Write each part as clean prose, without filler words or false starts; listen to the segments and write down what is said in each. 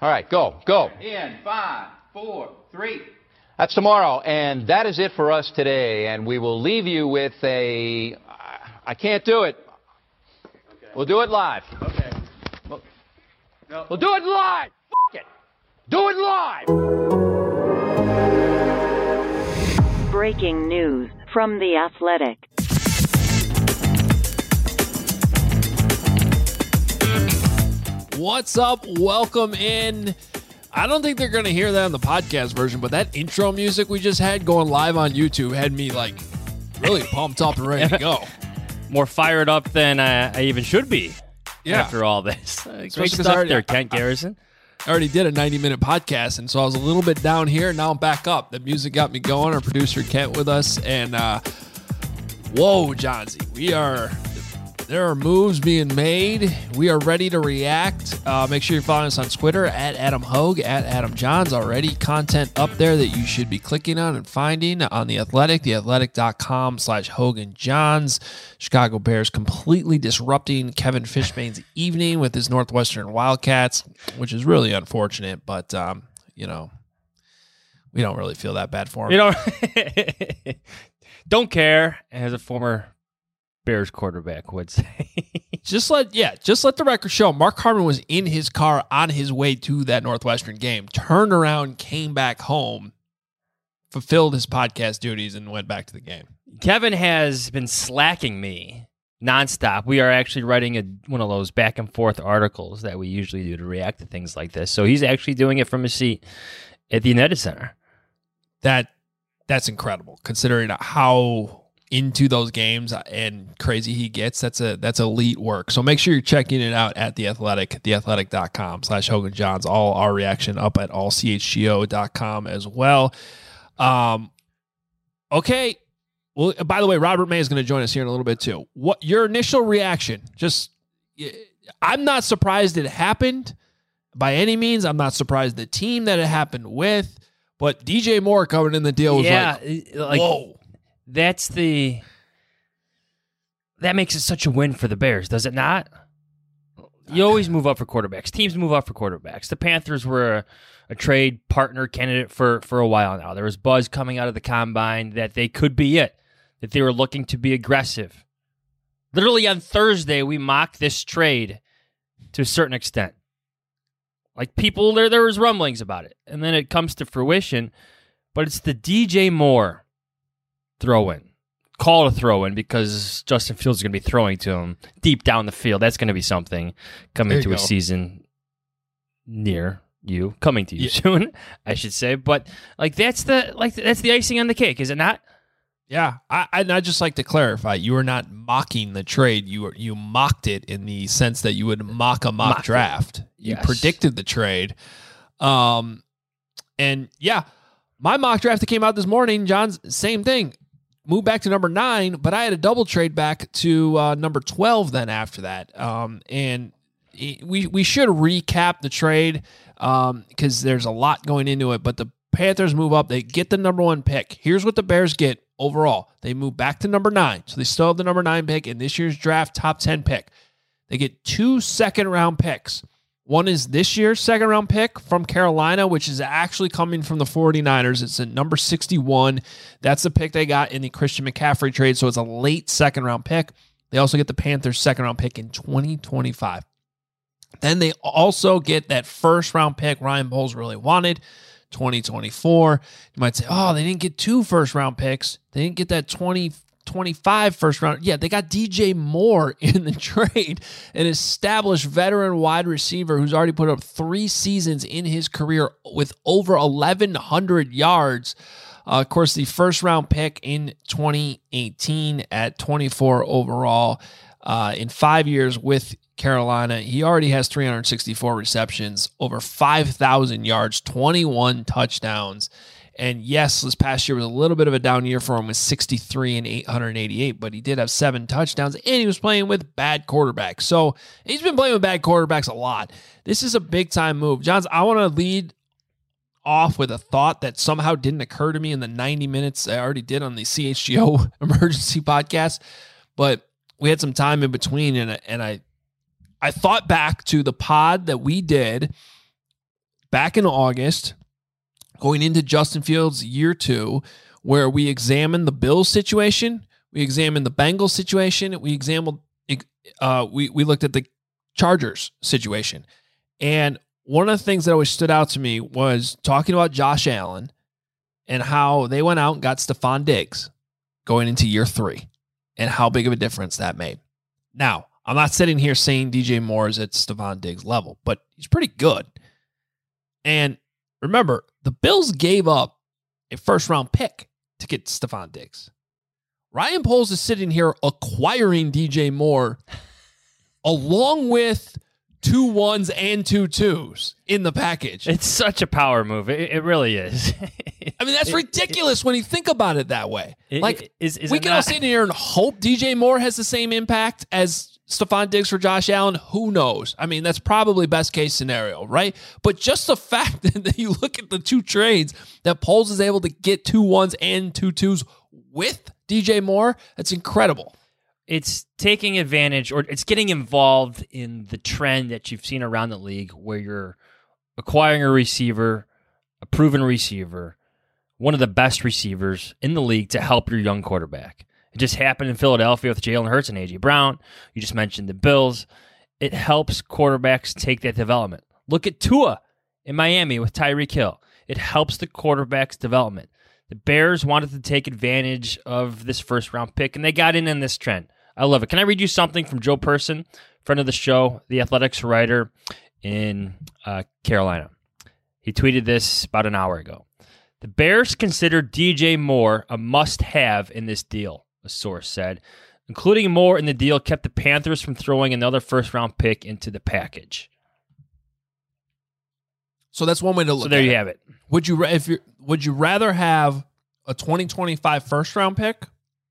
All right, go. In 5, 4, 3. That's tomorrow, and that is it for us today. And we will leave you with I can't do it. Okay. We'll do it live. Okay. We'll do it live. F*** it. Do it live. Breaking news from The Athletic. What's up? Welcome in. I don't think they're going to hear that on the podcast version, but that intro music we just had going live on YouTube had me like really pumped up and ready to go. More fired up than I even should be Yeah. after all this. Great because stuff there, Kent Garrison. I already did a 90-minute podcast, and so I was a little bit down here. Now I'm back up. The music got me going. Our producer Kent with us, and whoa, Johnsy, there are moves being made. We are ready to react. Make sure you're following us on Twitter at Adam Hogue, at Adam Johns. Already content up there that you should be clicking on and finding on The Athletic, theathletic.com/HoganJohns. Chicago Bears completely disrupting Kevin Fishbane's evening with his Northwestern Wildcats, which is really unfortunate, but, we don't really feel that bad for him. You know, don't care, as a former Bears quarterback would say. Just let the record show Mark Harmon was in his car on his way to that Northwestern game, turned around, came back home, fulfilled his podcast duties, and went back to the game. Kevin has been slacking me nonstop. We are actually writing one of those back and forth articles that we usually do to react to things like this. So he's actually doing it from his seat at the United Center. That's incredible, considering how into those games and crazy he gets. That's elite work. So make sure you're checking it out at The Athletic, theathletic.com/HoganJohns. All our reaction up at allchgo.com as well. Okay. Well, by the way, Robert May is going to join us here in a little bit too. What your initial reaction? I'm not surprised it happened by any means. I'm not surprised the team that it happened with, but DJ Moore coming in the deal was like whoa. That makes it such a win for the Bears, does it not? You always move up for quarterbacks. Teams move up for quarterbacks. The Panthers were a trade partner candidate for a while now. There was buzz coming out of the combine that they could be it, that they were looking to be aggressive. Literally on Thursday, we mocked this trade to a certain extent. Like people, there was rumblings about it. And then it comes to fruition, but it's the DJ Moore throw-in. Call it a throw-in because Justin Fields is going to be throwing to him deep down the field. That's going to be something coming to a season near you, coming to you soon, I should say. But that's the icing on the cake, is it not? Yeah, I'd just like to clarify. You were not mocking the trade. You mocked it in the sense that you would mock a mock draft. You predicted the trade. And yeah, my mock draft that came out this morning, John's same thing. Moved back to number 9, but I had a double trade back to number 12 then after that. And we should recap the trade because there's a lot going into it. But the Panthers move up. They get the number 1 pick. Here's what the Bears get overall. They move back to number 9. So they still have the number 9 pick in this year's draft, top 10 pick. They get 2 second-round picks. One is this year's second-round pick from Carolina, which is actually coming from the 49ers. It's at number 61. That's the pick they got in the Christian McCaffrey trade, so it's a late second-round pick. They also get the Panthers' second-round pick in 2025. Then they also get that first-round pick Ryan Poles really wanted, 2024. You might say, oh, they didn't get 2 first-round picks. They didn't get that 2025 first round. Yeah, they got DJ Moore in the trade, an established veteran wide receiver who's already put up 3 seasons in his career with over 1,100 yards. Of course, the first round pick in 2018 at 24 overall. In 5 years with Carolina, he already has 364 receptions, over 5,000 yards, 21 touchdowns. And yes, this past year was a little bit of a down year for him with 63 and 888, but he did have 7 touchdowns, and he was playing with bad quarterbacks. So he's been playing with bad quarterbacks a lot. This is a big-time move. Johns, I want to lead off with a thought that somehow didn't occur to me in the 90 minutes I already did on the CHGO emergency podcast, but we had some time in between, and I thought back to the pod that we did back in August, going into Justin Fields year 2, where we examined the Bills situation, we examined the Bengals situation, we looked at the Chargers situation. And one of the things that always stood out to me was talking about Josh Allen and how they went out and got Stephon Diggs going into year 3 and how big of a difference that made. Now, I'm not sitting here saying DJ Moore is at Stephon Diggs' level, but he's pretty good. And remember, the Bills gave up a first-round pick to get Stephon Diggs. Ryan Poles is sitting here acquiring DJ Moore along with 2 1s and 2 2s in the package. It's such a power move. It really is. I mean, that's ridiculous when you think about it that way. Is we can all sit here and hope DJ Moore has the same impact as Stephon Diggs for Josh Allen. Who knows? I mean, that's probably best case scenario, right? But just the fact that you look at the 2 trades that Poles is able to get 2 1s and 2 2s with DJ Moore, that's incredible. It's taking advantage, or it's getting involved in the trend that you've seen around the league where you're acquiring a receiver, a proven receiver, one of the best receivers in the league to help your young quarterback. It just happened in Philadelphia with Jalen Hurts and A.J. Brown. You just mentioned the Bills. It helps quarterbacks take that development. Look at Tua in Miami with Tyreek Hill. It helps the quarterback's development. The Bears wanted to take advantage of this first-round pick, and they got in this trend. I love it. Can I read you something from Joe Person, friend of the show, the Athletics writer in Carolina? He tweeted this about an hour ago. The Bears considered DJ Moore a must-have in this deal, a source said. Including Moore in the deal kept the Panthers from throwing another first-round pick into the package. So that's one way to look. So there at you it. have it. Would you rather have a 2025 first-round pick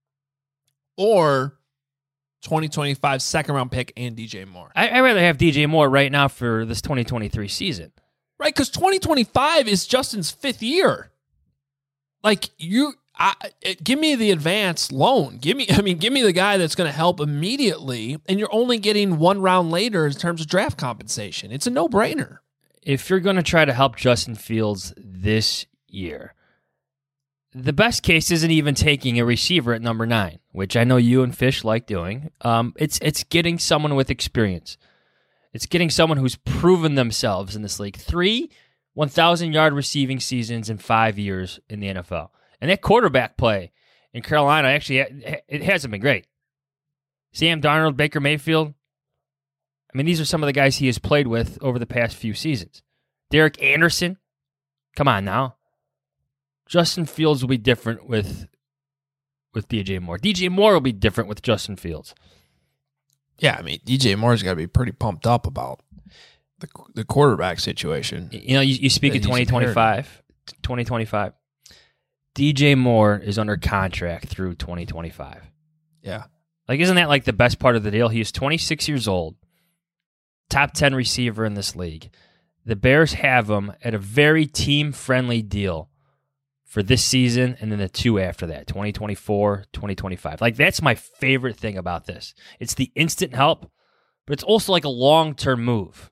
or 2025 second-round pick and DJ Moore? I'd rather have DJ Moore right now for this 2023 season. Right, because 2025 is Justin's 5th year. Like, give me the advance loan. Give me the guy that's going to help immediately, and you're only getting 1 round later in terms of draft compensation. It's a no-brainer. If you're going to try to help Justin Fields this year, the best case isn't even taking a receiver at number 9, which I know you and Fish like doing. It's getting someone with experience. It's getting someone who's proven themselves in this league. 3 1,000-yard receiving seasons in 5 years in the NFL. And that quarterback play in Carolina, actually, it hasn't been great. Sam Darnold, Baker Mayfield, I mean, these are some of the guys he has played with over the past few seasons. Derek Anderson, come on now. Justin Fields will be different with DJ Moore. DJ Moore will be different with Justin Fields. Yeah, I mean, DJ Moore's got to be pretty pumped up about the quarterback situation. You know, you speak of 2025. DJ Moore is under contract through 2025. Yeah. Like, isn't that like the best part of the deal? He is 26 years old, top 10 receiver in this league. The Bears have him at a very team-friendly deal for this season and then the 2 after that, 2024, 2025. Like, that's my favorite thing about this. It's the instant help, but it's also like a long-term move.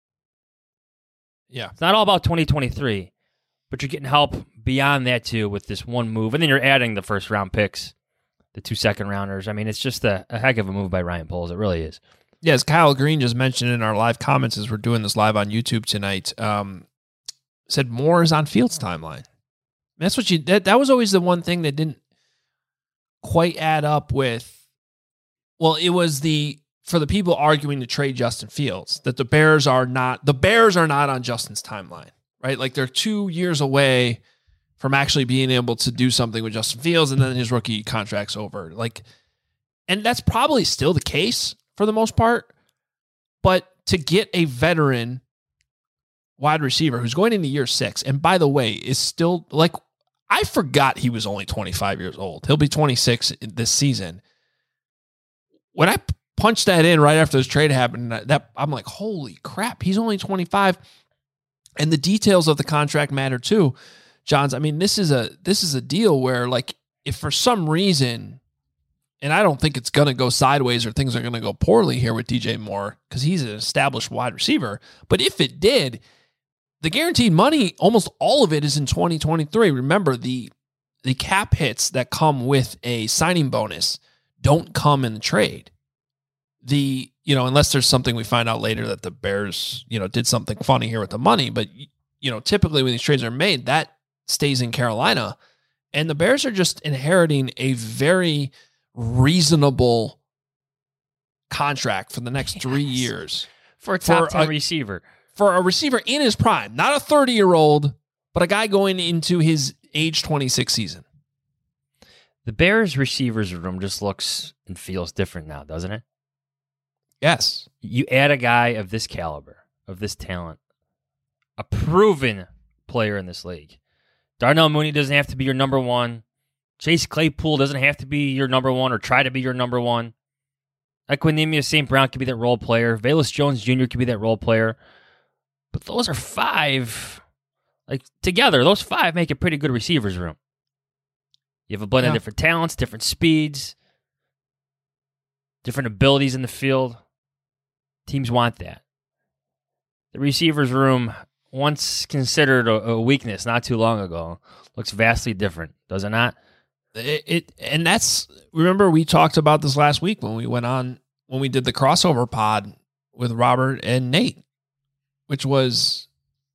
Yeah. It's not all about 2023, but you're getting help beyond that too with this one move. And then you're adding the first-round picks, the 2 second-rounders. I mean, it's just a heck of a move by Ryan Poles. It really is. Yeah, as Kyle Green just mentioned in our live comments as we're doing this live on YouTube tonight, said Moore is on Fields' timeline. That's what that was always the one thing that didn't quite add up with. Well, it was for the people arguing to trade Justin Fields that the Bears are not on Justin's timeline, right? Like, they're 2 years away from actually being able to do something with Justin Fields, and then his rookie contract's over. Like, and that's probably still the case for the most part, but to get a veteran wide receiver who's going into year 6, and by the way, is still, like, I forgot he was only 25 years old. He'll be 26 this season. When I punched that in right after this trade happened, that I'm like, holy crap, he's only 25. And the details of the contract matter too. Johns, I mean, this is a deal where, like, if for some reason, and I don't think it's going to go sideways or things are going to go poorly here with DJ Moore because he's an established wide receiver, but if it did, the guaranteed money, almost all of it is in 2023. Remember, the cap hits that come with a signing bonus don't come in the trade. Unless there's something we find out later that the Bears, did something funny here with the money. But, typically when these trades are made, that stays in Carolina. And the Bears are just inheriting a very reasonable contract for the next 3 years. For a top 10 receiver. For a receiver in his prime. Not a 30-year-old, but a guy going into his age 26 season. The Bears receivers room just looks and feels different now, doesn't it? Yes. You add a guy of this caliber, of this talent, a proven player in this league. Darnell Mooney doesn't have to be your number one. Chase Claypool doesn't have to be your number one or try to be your number one. Equanimeous St. Brown could be that role player. Velus Jones Jr. could be that role player. But those are five. Together, those five make a pretty good receivers room. You have a blend of different talents, different speeds, different abilities in the field. Teams want that. The receivers room, once considered a weakness not too long ago, looks vastly different, does it not? And that's, remember we talked about this last week when we did the crossover pod with Robert and Nate, which was,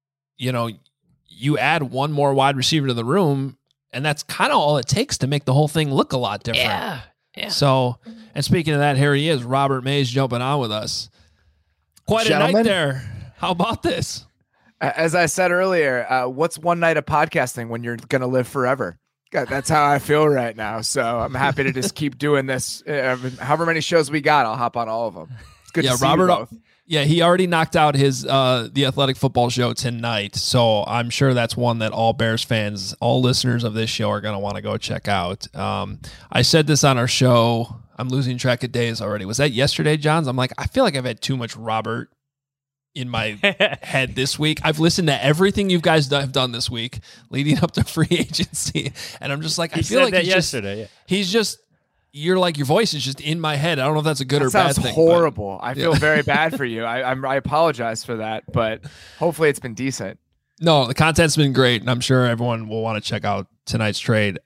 you add one more wide receiver to the room, and that's kind of all it takes to make the whole thing look a lot different. Yeah. So, and speaking of that, here he is, Robert Mays jumping on with us. Quite a night there. How about this? As I said earlier, what's one night of podcasting when you're going to live forever? God, that's how I feel right now. So I'm happy to just keep doing this. However many shows we got, I'll hop on all of them. It's good to see Robert, you both. Yeah, he already knocked out his the Athletic Football Show tonight. So I'm sure that's one that all Bears fans, all listeners of this show are going to want to go check out. I said this on our show. I'm losing track of days already. Was that yesterday, Johns? I'm like, I feel like I've had too much Robert in my head this week. I've listened to everything you guys have done this week leading up to free agency. And I'm just like, I feel like that yesterday. He's just, you're like, your voice is just in my head. I don't know if that's a good or bad thing. Sounds horrible. I feel very bad for you. I apologize for that, but hopefully it's been decent. No, the content's been great, and I'm sure everyone will want to check out tonight's trade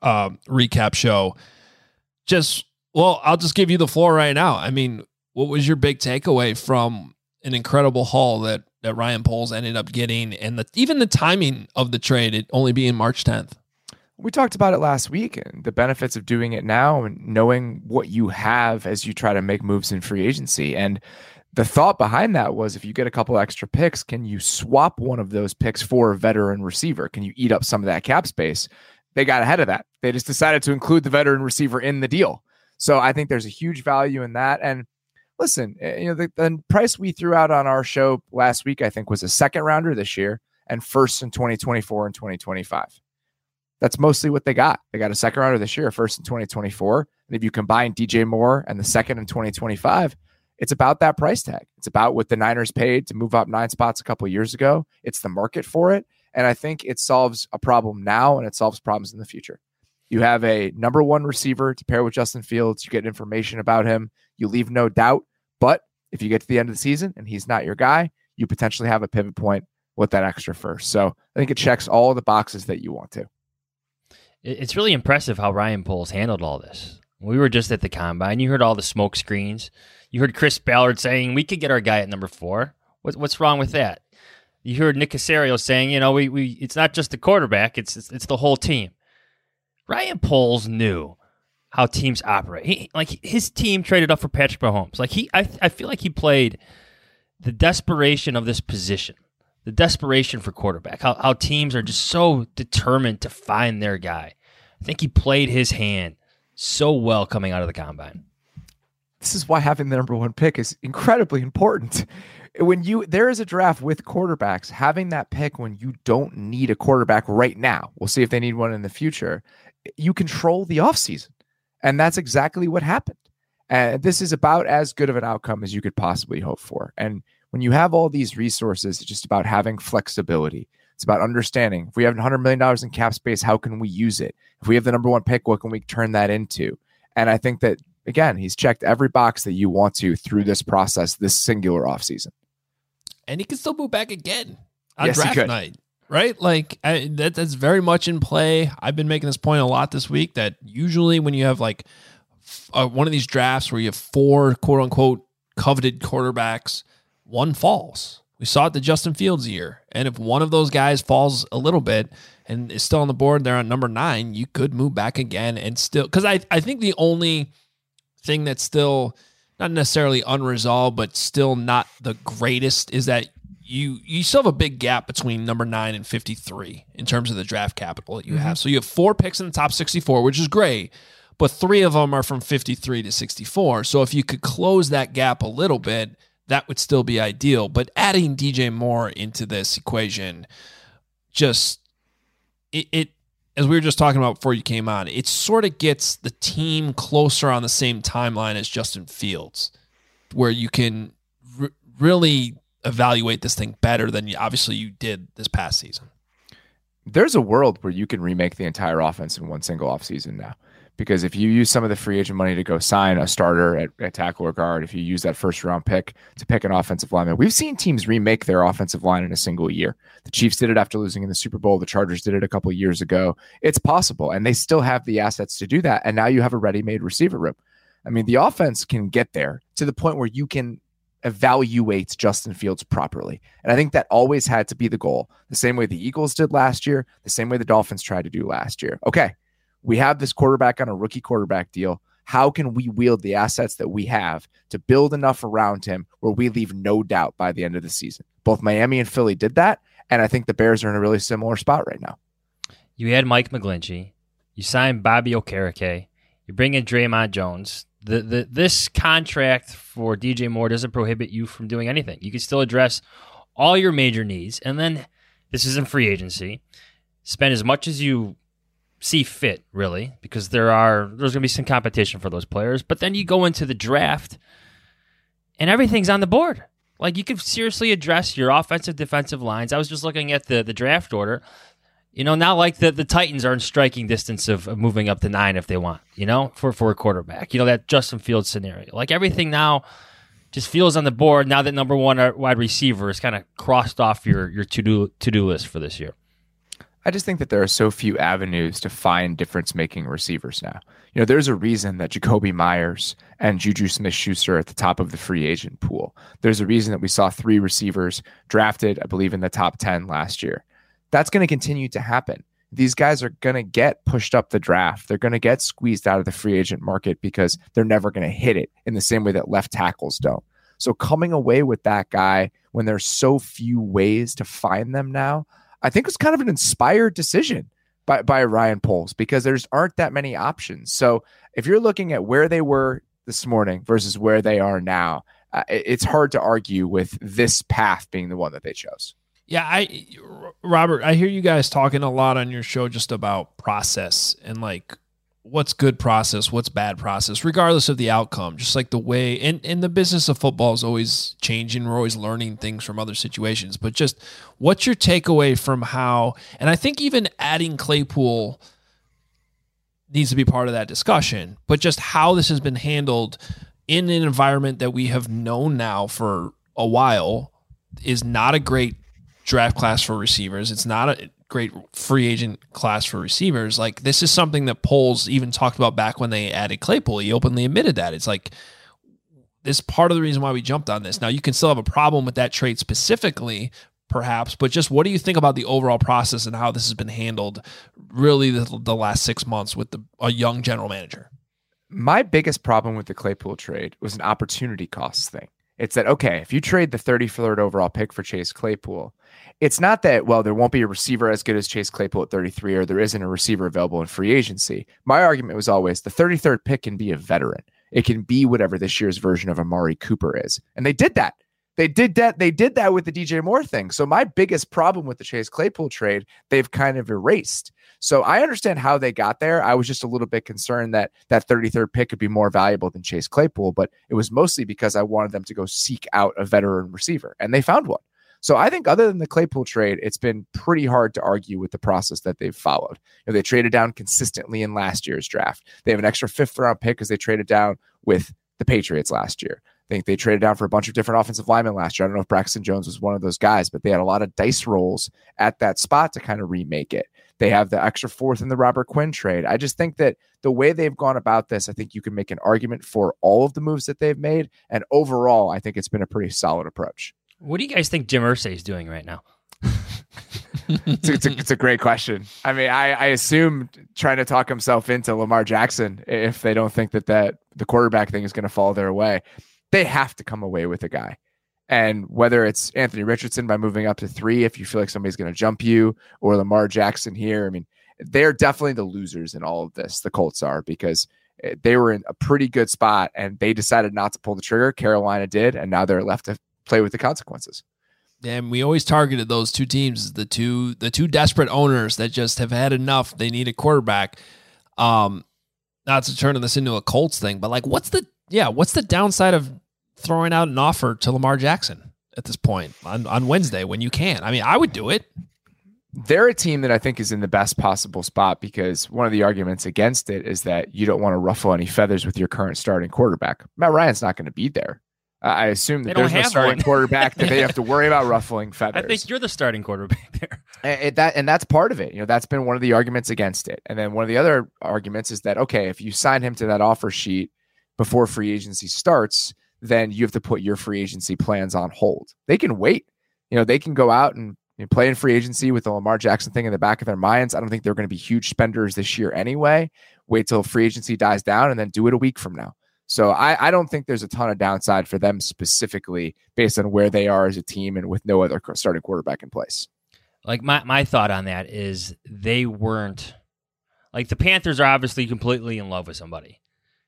recap show. I'll just give you the floor right now. I mean, what was your big takeaway from an incredible haul that Ryan Poles ended up getting, and even the timing of the trade, it only being March 10th? We talked about it last week and the benefits of doing it now and knowing what you have as you try to make moves in free agency. And the thought behind that was, if you get a couple extra picks, can you swap one of those picks for a veteran receiver? Can you eat up some of that cap space? They got ahead of that. They just decided to include the veteran receiver in the deal. So I think there's a huge value in that. And listen, the price we threw out on our show last week, I think, was a second rounder this year and first in 2024 and 2025. That's mostly what they got. They got a second rounder this year, first in 2024. And if you combine DJ Moore and the second in 2025, it's about that price tag. It's about what the Niners paid to move up 9 spots a couple of years ago. It's the market for it. And I think it solves a problem now and it solves problems in the future. You have a number one receiver to pair with Justin Fields. You get information about him. You leave no doubt. But if you get to the end of the season and he's not your guy, you potentially have a pivot point with that extra first. So I think it checks all the boxes that you want to. It's really impressive how Ryan Poles handled all this. We were just at the Combine. You heard all the smoke screens. You heard Chris Ballard saying, we could get our guy at number 4. What's wrong with that? You heard Nick Caserio saying, we it's not just the quarterback, it's the whole team. Ryan Poles knew how teams operate. His team traded up for Patrick Mahomes. I feel like he played the desperation of this position, the desperation for quarterback. How teams are just so determined to find their guy. I think he played his hand so well coming out of the Combine. This is why having the number one pick is incredibly important. There is a draft with quarterbacks, having that pick when you don't need a quarterback right now, we'll see if they need one in the future, you control the offseason. And that's exactly what happened. And this is about as good of an outcome as you could possibly hope for. And when you have all these resources, it's just about having flexibility. It's about understanding, if we have $100 million in cap space, how can we use it? If we have the number one pick, what can we turn that into? And I think that, again, he's checked every box that you want to through this process, this singular offseason. And he can still move back again. on Yes, he draft could. night, right? Like that's very much in play. I've been making this point a lot this week that usually when you have like one of these drafts where you have 4 quote unquote coveted quarterbacks, one falls. We saw it the Justin Fields year. And if one of those guys falls a little bit and is still on the board, they're on number 9, you could move back again and still, because I think the only thing that's still not necessarily unresolved, but still not the greatest is that you still have a big gap between number 9 and 53 in terms of the draft capital that you have. So you have 4 picks in the top 64, which is great, but 3 of them are from 53 to 64. So if you could close that gap a little bit, that would still be ideal. But adding DJ Moore into this equation, just it as we were just talking about before you came on, it sort of gets the team closer on the same timeline as Justin Fields, where you can really evaluate this thing better than obviously you did this past season. There's a world where you can remake the entire offense in one single offseason now. Because if you use some of the free agent money to go sign a starter at tackle or guard, if you use that first round pick to pick an offensive lineman, we've seen teams remake their offensive line in a single year. The Chiefs did it after losing in the Super Bowl. The Chargers did it a couple of years ago. It's possible, and they still have the assets to do that. And now you have a ready-made receiver room. I mean, the offense can get there to the point where you can evaluate Justin Fields properly. And I think that always had to be the goal. The same way the Eagles did last year, the same way the Dolphins tried to do last year. Okay. We have this quarterback on a rookie quarterback deal. How can we wield the assets that we have to build enough around him where we leave no doubt by the end of the season? Both Miami and Philly did that, and I think the Bears are in a really similar spot right now. You had Mike McGlinchey. You signed Bobby Okereke. You bring in Draymond Jones. This contract for DJ Moore doesn't prohibit you from doing anything. You can still address all your major needs, and then this isn't free agency. Spend as much as you see fit, really, because there's going to be some competition for those players. But then you go into the draft, and everything's on the board. Like, you could seriously address your offensive, defensive lines. I was just looking at the draft order. You know, now like the Titans are in striking distance of moving up to 9 if they want, you know, for a quarterback. You know, that Justin Fields scenario. Like, everything now just feels on the board now that number 1 wide receiver is kind of crossed off your to-do list for this year. I just think that there are so few avenues to find difference-making receivers now. You know, there's a reason that Jacoby Myers and Juju Smith-Schuster are at the top of the free agent pool. There's a reason that we saw 3 receivers drafted, I believe, in the top 10 last year. That's going to continue to happen. These guys are going to get pushed up the draft. They're going to get squeezed out of the free agent market because they're never going to hit it in the same way that left tackles don't. So coming away with that guy when there's so few ways to find them now, I think it's kind of an inspired decision by Ryan Poles because there's aren't that many options. So if you're looking at where they were this morning versus where they are now, it's hard to argue with this path being the one that they chose. Yeah, Robert, I hear you guys talking a lot on your show just about process and like what's good process, what's bad process, regardless of the outcome. Just like the way, and the business of football is always changing. We're always learning things from other situations. But just what's your takeaway from how, and I think even adding Claypool needs to be part of that discussion, but just how this has been handled in an environment that we have known now for a while is not a great draft class for receivers. It's not a great free agent class for receivers. Like, this is something that Poles even talked about back when they added Claypool. He openly admitted that. It's like, this is part of the reason why we jumped on this. Now, you can still have a problem with that trade specifically, perhaps, but just what do you think about the overall process and how this has been handled really the last 6 months with a young general manager? My biggest problem with the Claypool trade was an opportunity cost thing. It's that, okay, if you trade the 33rd overall pick for Chase Claypool, it's not that, well, there won't be a receiver as good as Chase Claypool at 33 or there isn't a receiver available in free agency. My argument was always the 33rd pick can be a veteran. It can be whatever this year's version of Amari Cooper is. And they did that. They did that with the DJ Moore thing. So my biggest problem with the Chase Claypool trade, they've kind of erased. So I understand how they got there. I was just a little bit concerned that that 33rd pick could be more valuable than Chase Claypool, but it was mostly because I wanted them to go seek out a veteran receiver, and they found one. So I think other than the Claypool trade, it's been pretty hard to argue with the process that they've followed. You know, they traded down consistently in last year's draft. They have an extra 5th round pick because they traded down with the Patriots last year. I think they traded down for a bunch of different offensive linemen last year. I don't know if Braxton Jones was one of those guys, but they had a lot of dice rolls at that spot to kind of remake it. They have the extra fourth in the Robert Quinn trade. I just think that the way they've gone about this, I think you can make an argument for all of the moves that they've made. And overall, I think it's been a pretty solid approach. What do you guys think Jim Irsay is doing right now? It's a great question. I mean, I assume trying to talk himself into Lamar Jackson if they don't think that the quarterback thing is going to fall their way. They have to come away with a guy. And whether it's Anthony Richardson by moving up to 3, if you feel like somebody's going to jump you, or Lamar Jackson here, I mean, they're definitely the losers in all of this. The Colts are, because they were in a pretty good spot and they decided not to pull the trigger. Carolina did, and now they're left to play with the consequences. And we always targeted those two teams as the two desperate owners that just have had enough. They need a quarterback. Not to turn this into a Colts thing, but like, what's the downside of throwing out an offer to Lamar Jackson at this point on Wednesday when you can? I mean, I would do it. They're a team that I think is in the best possible spot, because one of the arguments against it is that you don't want to ruffle any feathers with your current starting quarterback. Matt Ryan's not going to be there. I assume that there's no starting quarterback that they have to worry about ruffling feathers. I think you're the starting quarterback there. And that's part of it. You know, that's been one of the arguments against it. And then one of the other arguments is that, okay, if you sign him to that offer sheet before free agency starts, then you have to put your free agency plans on hold. They can wait. You know, they can go out and play in free agency with the Lamar Jackson thing in the back of their minds. I don't think they're going to be huge spenders this year anyway. Wait till free agency dies down and then do it a week from now. So I don't think there's a ton of downside for them specifically based on where they are as a team and with no other starting quarterback in place. Like my thought on that is they weren't like, the Panthers are obviously completely in love with somebody.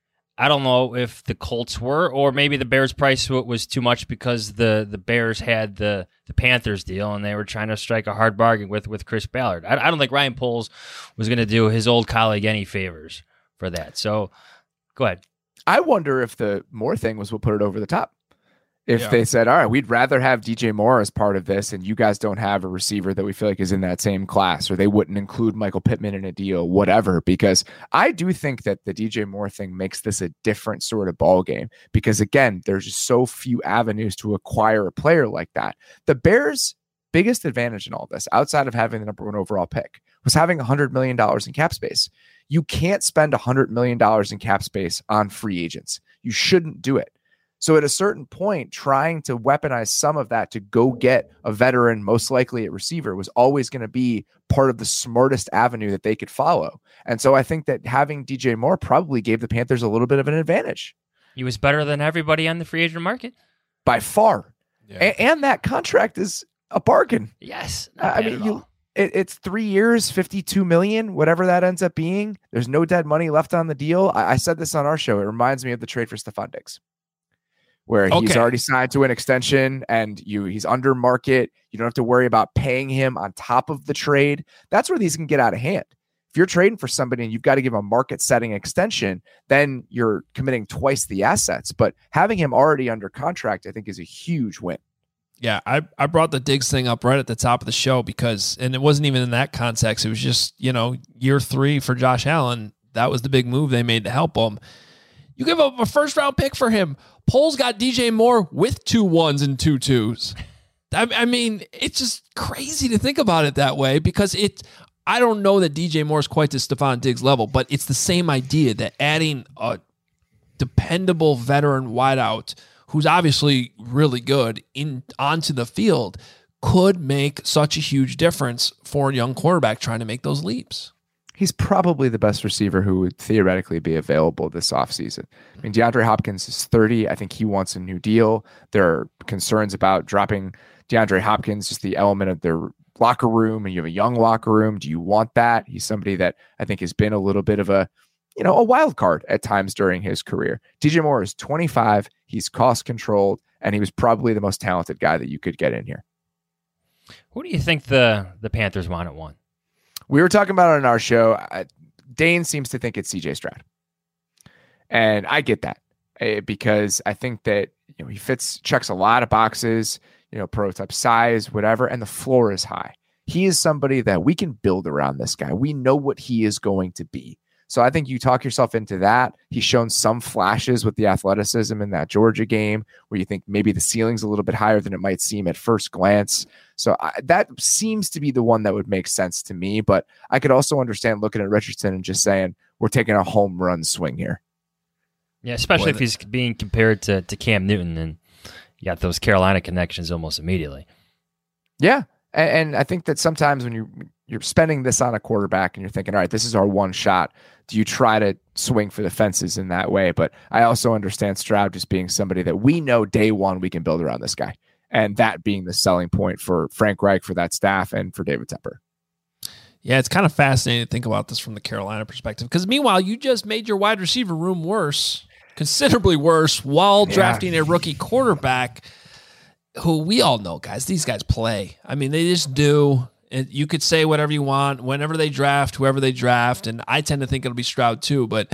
I don't know if the Colts were, or maybe the Bears price was too much because the Bears had the Panthers deal and they were trying to strike a hard bargain with Chris Ballard. I don't think Ryan Poles was going to do his old colleague any favors for that. So go ahead. I wonder if the Moore thing was what put it over the top. If they said, all right, we'd rather have DJ Moore as part of this, and you guys don't have a receiver that we feel like is in that same class, or they wouldn't include Michael Pittman in a deal, whatever, because I do think that the DJ Moore thing makes this a different sort of ball game, because again, there's just so few avenues to acquire a player like that. The Bears' biggest advantage in all this, outside of having the number 1 overall pick, was having $100 million in cap space. You can't spend $100 million in cap space on free agents. You shouldn't do it. So at a certain point, trying to weaponize some of that to go get a veteran, most likely at receiver, was always going to be part of the smartest avenue that they could follow. And so I think that having DJ Moore probably gave the Panthers a little bit of an advantage. He was better than everybody on the free agent market. By far. Yeah. And that contract is a bargain. Yes. I mean, it's 3 years, $52 million, whatever that ends up being. There's no dead money left on the deal. I said this on our show. It reminds me of the trade for Stephon Diggs, where he's already signed to an extension and he's under market. You don't have to worry about paying him on top of the trade. That's where these can get out of hand. If you're trading for somebody and you've got to give a market setting extension, then you're committing twice the assets. But having him already under contract, I think, is a huge win. Yeah, I brought the Diggs thing up right at the top of the show because, and it wasn't even in that context. It was just, year 3 for Josh Allen. That was the big move they made to help him. You give up a first-round pick for him. Poles got DJ Moore with 2 1s and 2 2s. I mean, it's just crazy to think about it that way, because I don't know that DJ Moore is quite to Stephon Diggs level, but it's the same idea that adding a dependable veteran wideout who's obviously really good onto the field could make such a huge difference for a young quarterback trying to make those leaps. He's probably the best receiver who would theoretically be available this offseason. I mean, DeAndre Hopkins is 30. I think he wants a new deal. There are concerns about dropping DeAndre Hopkins, just the element of their locker room, and you have a young locker room. Do you want that? He's somebody that I think has been a little bit of a wild card at times during his career. DJ Moore is 25. He's cost controlled, and he was probably the most talented guy that you could get in here. Who do you think the Panthers want at 1? We were talking about it on our show. Dane seems to think it's CJ Stroud. And I get that because I think that he checks a lot of boxes, prototype size, whatever, and the floor is high. He is somebody that we can build around this guy. We know what he is going to be. So I think you talk yourself into that. He's shown some flashes with the athleticism in that Georgia game where you think maybe the ceiling's a little bit higher than it might seem at first glance. So that seems to be the one that would make sense to me. But I could also understand looking at Richardson and just saying, we're taking a home run swing here. Yeah, especially if he's being compared to Cam Newton, and you got those Carolina connections almost immediately. Yeah. And I think that sometimes when you're spending this on a quarterback and you're thinking, all right, this is our one shot, do you try to swing for the fences in that way? But I also understand Stroud just being somebody that we know day one we can build around this guy. And that being the selling point for Frank Reich, for that staff, and for David Tepper. Yeah, it's kind of fascinating to think about this from the Carolina perspective. Because meanwhile, you just made your wide receiver room worse, considerably worse, while drafting a rookie quarterback who we all know, guys, these guys play. I mean, they just do. And you could say whatever you want, whenever they draft, whoever they draft, and I tend to think it'll be Stroud too. But,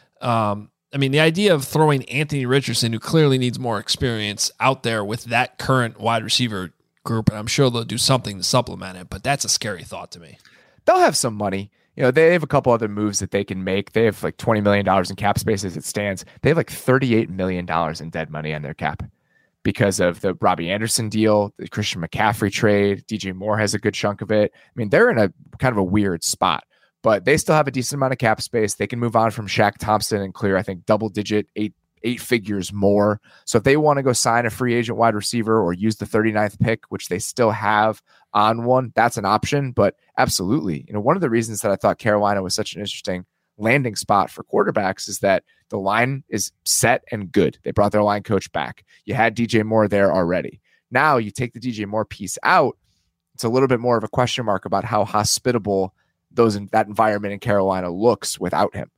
I mean, the idea of throwing Anthony Richardson, who clearly needs more experience, out there with that current wide receiver group, and I'm sure they'll do something to supplement it, but that's a scary thought to me. They'll have some money. You know, they have a couple other moves that they can make. They have like $20 million in cap space as it stands. They have like $38 million in dead money on their cap because of the Robbie Anderson deal, the Christian McCaffrey trade. DJ Moore has a good chunk of it. I mean, they're in a kind of a weird spot, but they still have a decent amount of cap space. They can move on from Shaq Thompson and clear, I think, double digit, eight figures more. So if they want to go sign a free agent wide receiver or use the 39th pick, which they still have on one, that's an option. But absolutely, you know, one of the reasons that I thought Carolina was such an interesting landing spot for quarterbacks is that the line is set and good. They brought their line coach back. You had DJ Moore there already. Now you take the DJ Moore piece out. It's a little bit more of a question mark about how hospitable that environment in Carolina looks without him.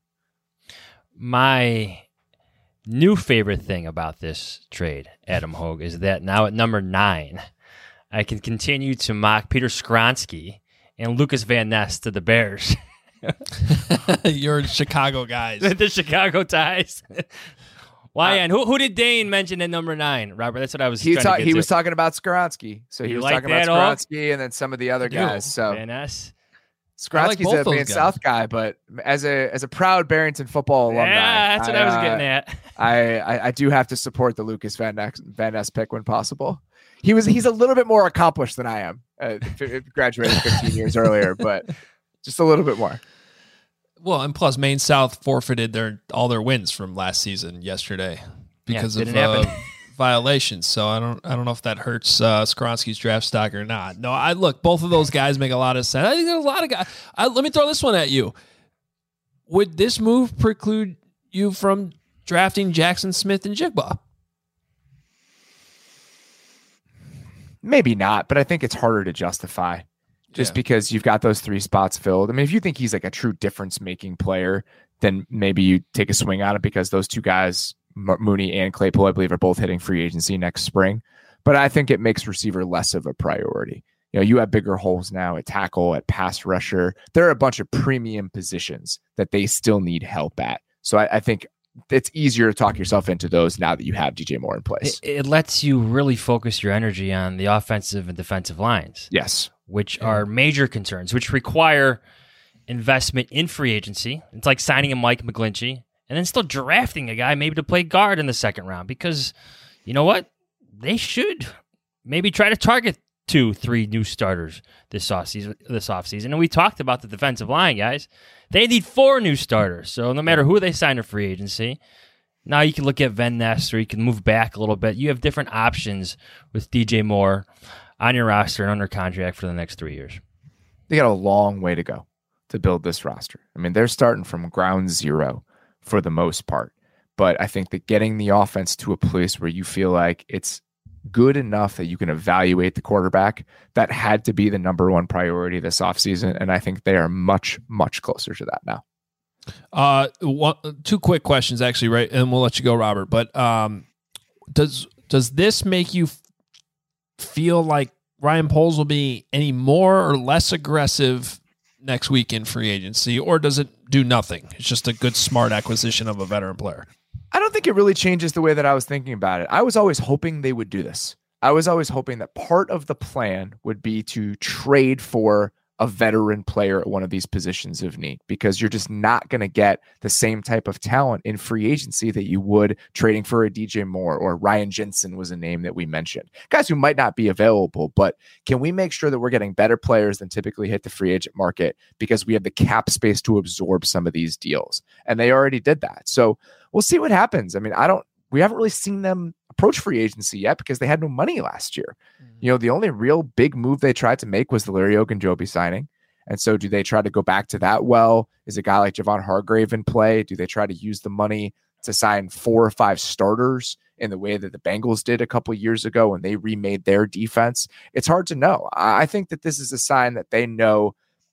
My new favorite thing about this trade, Adam Hogue, is that now at number 9, I can continue to mock Peter Skronsky and Lucas Van Ness to the Bears. You're Chicago guys. The Chicago ties. Why? And who did Dane mention at number 9, Robert? That's what I was He trying to was talking about Skronsky. So he was talking about Skronsky and then some of the other guys. So Van Ness. Skronsky's like a Man South guy, but as a proud Barrington football alumni, yeah, that's what I was getting at. I do have to support the Lucas Van Ness pick when possible. He's a little bit more accomplished than I am. Graduated 15 years earlier, but just a little bit more. Well, and plus Maine South forfeited all their wins from last season yesterday because of violations. So I don't know if that hurts Skronsky's draft stock or not. No, look, both of those guys make a lot of sense. I think there's a lot of guys. Let me throw this one at you. Would this move preclude you from drafting Jackson Smith and Jigba? Maybe not, but I think it's harder to justify just because you've got those 3 spots filled. I mean, if you think he's like a true difference-making player, then maybe you take a swing on it because those 2 guys, Mooney and Claypool, I believe, are both hitting free agency next spring. But I think it makes receiver less of a priority. You know, you have bigger holes now at tackle, at pass rusher. There are a bunch of premium positions that they still need help at. So I think it's easier to talk yourself into those now that you have DJ Moore in place. It lets you really focus your energy on the offensive and defensive lines. Yes. Which are major concerns, which require investment in free agency. It's like signing a Mike McGlinchey and then still drafting a guy maybe to play guard in the second round because, you know what? They should maybe try to target 2-3 new starters this offseason. And we talked about the defensive line, guys. They need 4 new starters. So no matter who they sign to free agency, now you can look at Van Ness or you can move back a little bit. You have different options with DJ Moore on your roster and under contract for the next 3 years. They got a long way to go to build this roster. I mean, they're starting from ground zero for the most part. But I think that getting the offense to a place where you feel like it's good enough that you can evaluate the quarterback, that had to be the number one priority this offseason. And I think they are much, much closer to that now. 2 quick questions, actually, right? And we'll let you go, Robert. But does this make you feel like Ryan Poles will be any more or less aggressive next week in free agency, or does it do nothing? It's just a good, smart acquisition of a veteran player. I don't think it really changes the way that I was thinking about it. I was always hoping they would do this. I was always hoping that part of the plan would be to trade for a veteran player at one of these positions of need, because you're just not going to get the same type of talent in free agency that you would trading for a DJ Moore, or Ryan Jensen was a name that we mentioned. Guys who might not be available, but can we make sure that we're getting better players than typically hit the free agent market because we have the cap space to absorb some of these deals? And they already did that. So we'll see what happens. I mean, we haven't really seen them approach free agency yet because they had no money last year. You know, the only real big move they tried to make was the Larry Ogunjobi signing. And so do they try to go back to that? Well, is a guy like Javon Hargrave in play? Do they try to use the money to sign 4 or 5 starters in the way that the Bengals did a couple of years ago when they remade their defense? It's hard to know. I think that this is a sign that they know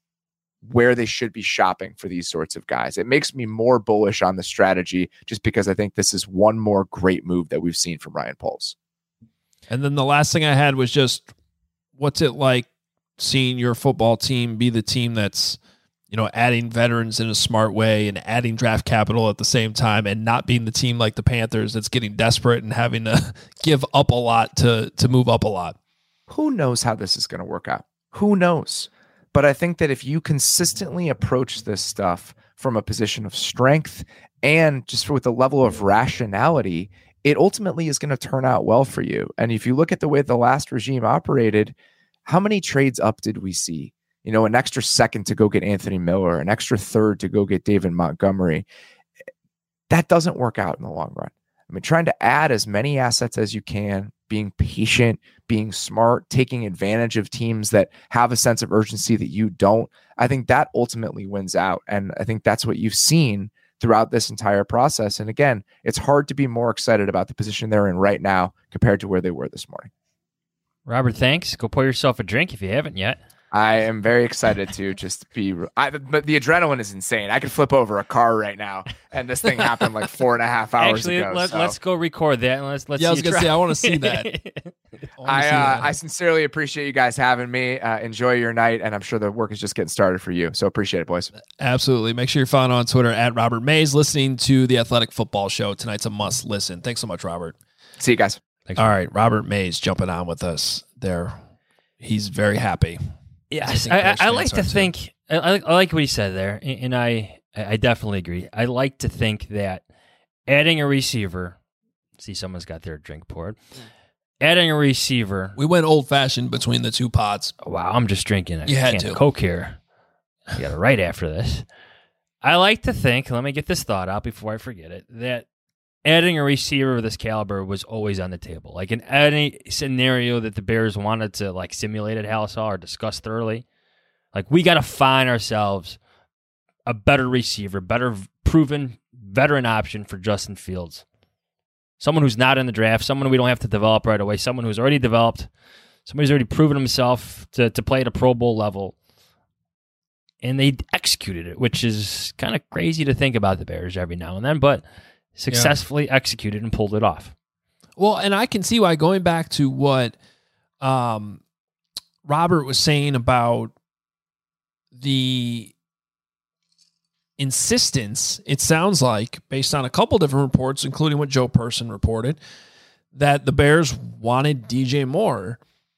where they should be shopping for these sorts of guys. It makes me more bullish on the strategy just because I think this is one more great move that we've seen from Ryan Poles. And then the last thing I had was just, what's it like seeing your football team be the team that's, you know, adding veterans in a smart way and adding draft capital at the same time, and not being the team like the Panthers that's getting desperate and having to give up a lot to move up a lot? Who knows how this is going to work out? Who knows? But I think that if you consistently approach this stuff from a position of strength and just with a level of rationality, it ultimately is going to turn out well for you. And if you look at the way the last regime operated, how many trades up did we see? You know, an extra second to go get Anthony Miller, an extra third to go get David Montgomery. That doesn't work out in the long run. I mean, trying to add as many assets as you can, being patient, being smart, taking advantage of teams that have a sense of urgency that you don't, I think that ultimately wins out. And I think that's what you've seen throughout this entire process. And again, it's hard to be more excited about the position they're in right now compared to where they were this morning. Robert, thanks. Go pour yourself a drink if you haven't yet. I am very excited to just be, but the adrenaline is insane. I could flip over a car right now, and this thing happened like 4.5 hours ago. Let's go record that. And let's yeah, I was going to say, I want to see that. I sincerely appreciate you guys having me. Enjoy your night, and I'm sure the work is just getting started for you. So appreciate it, boys. Absolutely. Make sure you're following on Twitter at Robert Mays, listening to the Athletic Football Show. Tonight's a must listen. Thanks so much, Robert. See you guys. Thanks, all right, Robert Mays jumping on with us there. He's very happy. Yes, I like to think. I like what he said there, and I definitely agree. I like to think that adding a receiver. See, someone's got their drink poured. Adding a receiver. We went old fashioned between the two pods. Wow, I'm just drinking a can of Coke here. I got it right after this. I like to think. Let me get this thought out before I forget it. That adding a receiver of this caliber was always on the table. Like in any scenario that the Bears wanted to like simulate at Halsall or discuss thoroughly, like we got to find ourselves a better receiver, better proven veteran option for Justin Fields. Someone who's not in the draft, someone we don't have to develop right away, someone who's already developed, somebody who's already proven himself to play at a Pro Bowl level. And they executed it, which is kind of crazy to think about the Bears every now and then, but successfully executed and pulled it off. Well, and I can see why, going back to what Robert was saying about the insistence, it sounds like, based on a couple different reports, including what Joe Person reported, that the Bears wanted DJ Moore.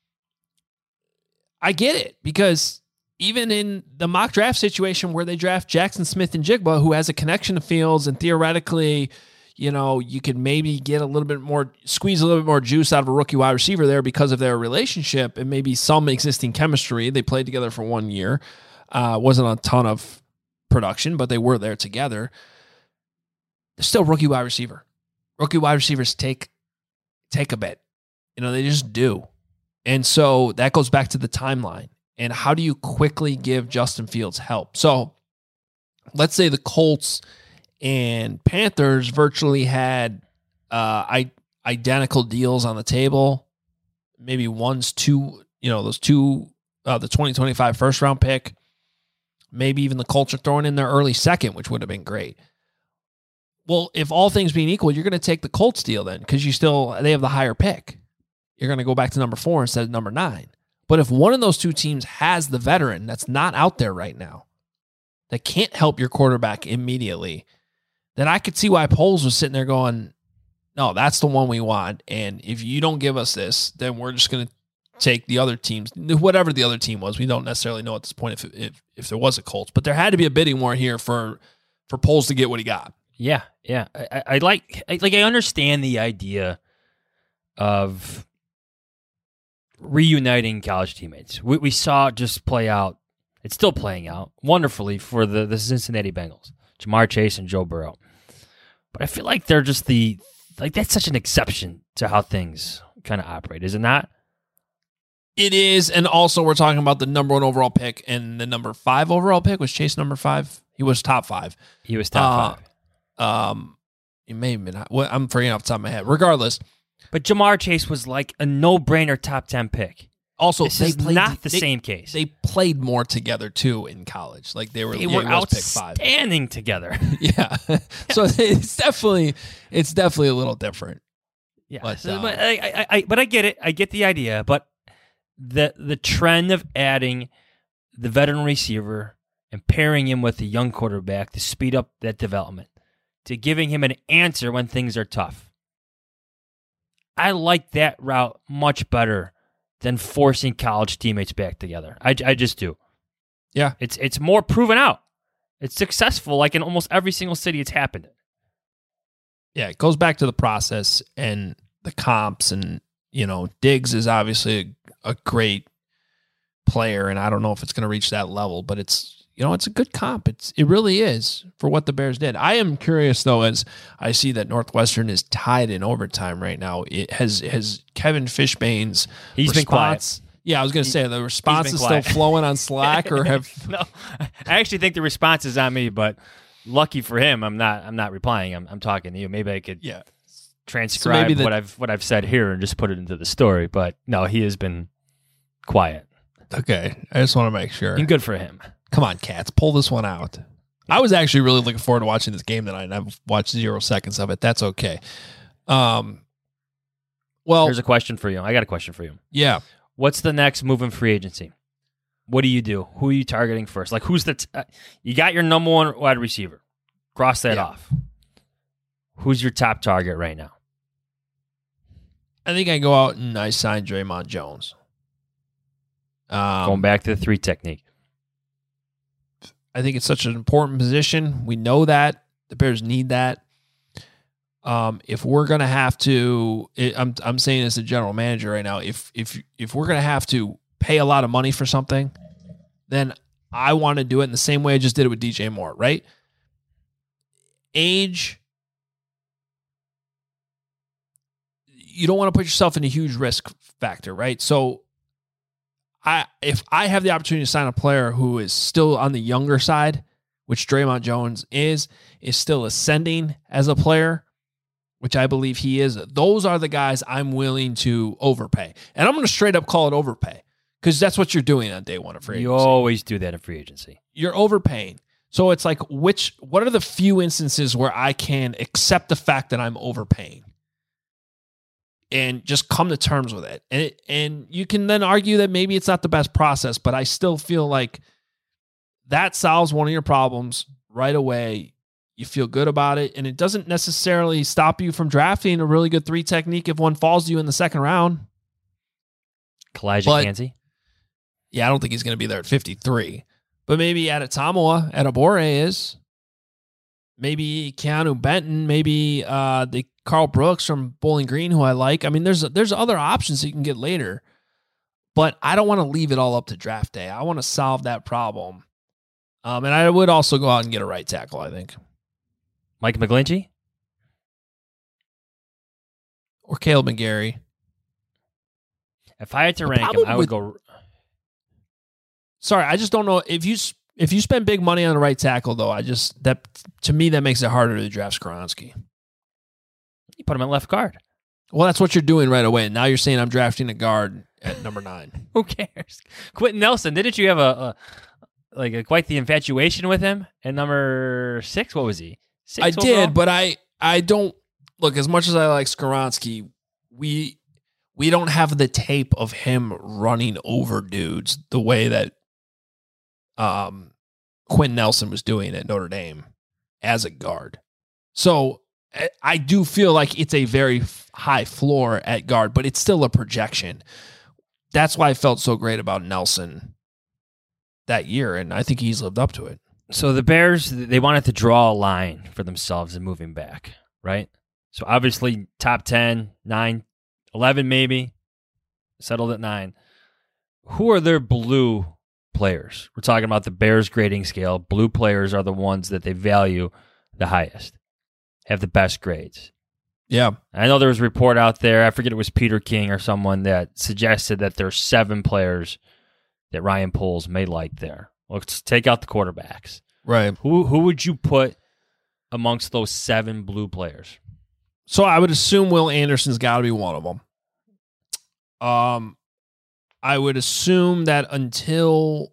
I get it, because even in the mock draft situation where they draft Jackson Smith-Njigba, who has a connection to Fields, and theoretically, you know, you could maybe get a little bit more, squeeze a little bit more juice out of a rookie wide receiver there because of their relationship and maybe some existing chemistry. They played together for 1 year. Wasn't a ton of production, but they were there together. They're still rookie wide receiver. Rookie wide receivers take a bit. You know, they just do. And so that goes back to the timeline. And how do you quickly give Justin Fields help? So let's say the Colts and Panthers virtually had identical deals on the table. Maybe one's two, you know, those two, the 2025 first round pick. Maybe even the Colts are throwing in their early second, which would have been great. Well, if all things being equal, you're going to take the Colts deal then, because they have the higher pick. You're going to go back to number 4 instead of number 9. But if one of those two teams has the veteran that's not out there right now, that can't help your quarterback immediately, then I could see why Poles was sitting there going, no, that's the one we want. And if you don't give us this, then we're just going to take the other teams, whatever the other team was. We don't necessarily know at this point if there was a Colts, but there had to be a bidding war here for Poles to get what he got. Yeah. I understand the idea of reuniting college teammates. We saw it just play out. It's still playing out wonderfully for the Cincinnati Bengals, Jamar Chase and Joe Burrow. But I feel like they're just that's such an exception to how things kind of operate, is it not? It is, and also we're talking about the number 1 overall pick and the number 5 overall pick. Was Chase number 5? He was top 5. He was top 5. He may have been. Well, I'm forgetting off the top of my head. Regardless, but Jamar Chase was like a no-brainer top 10 pick. Also, this is not the same case. They played more together too in college. Like they were outstanding together. Yeah, so it's definitely a little different. Yeah, but I get it. I get the idea, but the trend of adding the veteran receiver and pairing him with a young quarterback to speed up that development, to giving him an answer when things are tough. I like that route much better than forcing college teammates back together. I just do. Yeah. It's more proven out. It's successful, like in almost every single city it's happened in. Yeah, it goes back to the process and the comps, and Diggs is obviously a great player, and I don't know if it's going to reach that level, but it's a good comp. It really is for what the Bears did. I am curious though, as I see that Northwestern is tied in overtime right now. It has Kevin Fishbane's He's response, been quiet. Yeah, I was going to say the response is still flowing on Slack, or have no? I actually think the response is on me, but lucky for him, I'm not replying. I'm talking to you. Maybe I could transcribe what I've said here and just put it into the story. But no, he has been quiet. Okay, I just want to make sure. And good for him. Come on, Cats, pull this one out. I was actually really looking forward to watching this game tonight, and I've watched 0 seconds of it. That's okay. Well, here's a question for you. I got a question for you. Yeah. What's the next move in free agency? What do you do? Who are you targeting first? Like, who's you got your number 1 wide receiver. Cross that off. Who's your top target right now? I think I go out and I sign Draymond Jones. Going back to the 3 technique. I think it's such an important position. We know that. The Bears need that. If we're going to have to, I'm saying as a general manager right now, if we're going to have to pay a lot of money for something, then I want to do it in the same way I just did it with DJ Moore, right? Age, you don't want to put yourself in a huge risk factor, right? So if I have the opportunity to sign a player who is still on the younger side, which Draymond Jones is still ascending as a player, which I believe he is, those are the guys I'm willing to overpay. And I'm going to straight up call it overpay, because that's what you're doing on day 1 of free agency. You always do that in free agency. You're overpaying. So it's like, what are the few instances where I can accept the fact that I'm overpaying and just come to terms with it? And you can then argue that maybe it's not the best process, but I still feel like that solves one of your problems right away. You feel good about it, and it doesn't necessarily stop you from drafting a really good 3 technique if one falls to you in the 2nd round. Kalijah Kancey? Yeah, I don't think he's going to be there at 53. But maybe Adetomoa, Adebore is. Maybe Keanu Benton. Maybe the Carl Brooks from Bowling Green, who I like. I mean, there's other options that you can get later. But I don't want to leave it all up to draft day. I want to solve that problem. And I would also go out and get a right tackle, I think. Mike McGlinchey? Or Caleb McGarry. If I had to rank him, I would go... Sorry, I just don't know. If you spend big money on the right tackle, though, to me, that makes it harder to draft Skoronski. You put him at left guard. Well, that's what you're doing right away. Now you're saying I'm drafting a guard at number 9. Who cares? Quentin Nelson, didn't you have quite the infatuation with him at number 6? What was he? 6 I overall? did, but I don't look, as much as I like Skoronski, we don't have the tape of him running over dudes the way that Quentin Nelson was doing at Notre Dame as a guard. So I do feel like it's a very high floor at guard, but it's still a projection. that's why I felt so great about Nelson that year, and I think he's lived up to it. So the Bears, they wanted to draw a line for themselves in moving back, right? So obviously top 10, 9, 11 maybe, settled at 9. Who are their blue players? We're talking about the Bears grading scale. Blue players are the ones that they value the highest, have the best grades. Yeah. I know there was a report out there, I forget it was Peter King or someone, that suggested that there's 7 players that Ryan Poles may like there. Let's take out the quarterbacks. Right. Who would you put amongst those 7 blue players? So I would assume Will Anderson's got to be one of them. I would assume that until...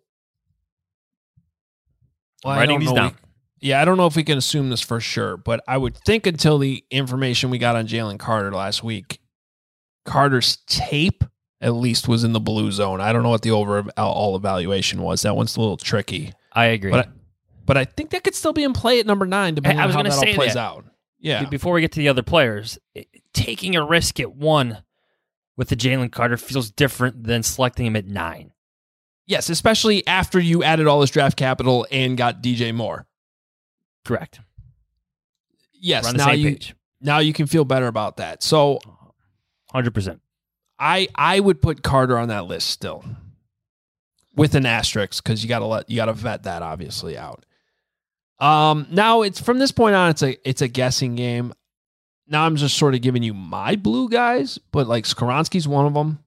Well, I'm writing these down. I don't know if we can assume this for sure, but I would think until the information we got on Jalen Carter last week, Carter's tape at least was in the blue zone. I don't know what the overall evaluation was. That one's a little tricky. I agree. But I think that could still be in play at number 9, depending on how that all plays out. Yeah. Before we get to the other players, taking a risk at 1 with the Jalen Carter feels different than selecting him at 9. Yes, especially after you added all this draft capital and got DJ Moore. Correct. Yes, We're on the same page. Now you can feel better about that. So 100%. I would put Carter on that list still, with an asterisk, because you gotta vet that obviously out. Now it's from this point on, it's a guessing game. Now I'm just sort of giving you my blue guys, but like Skoronski's one of them.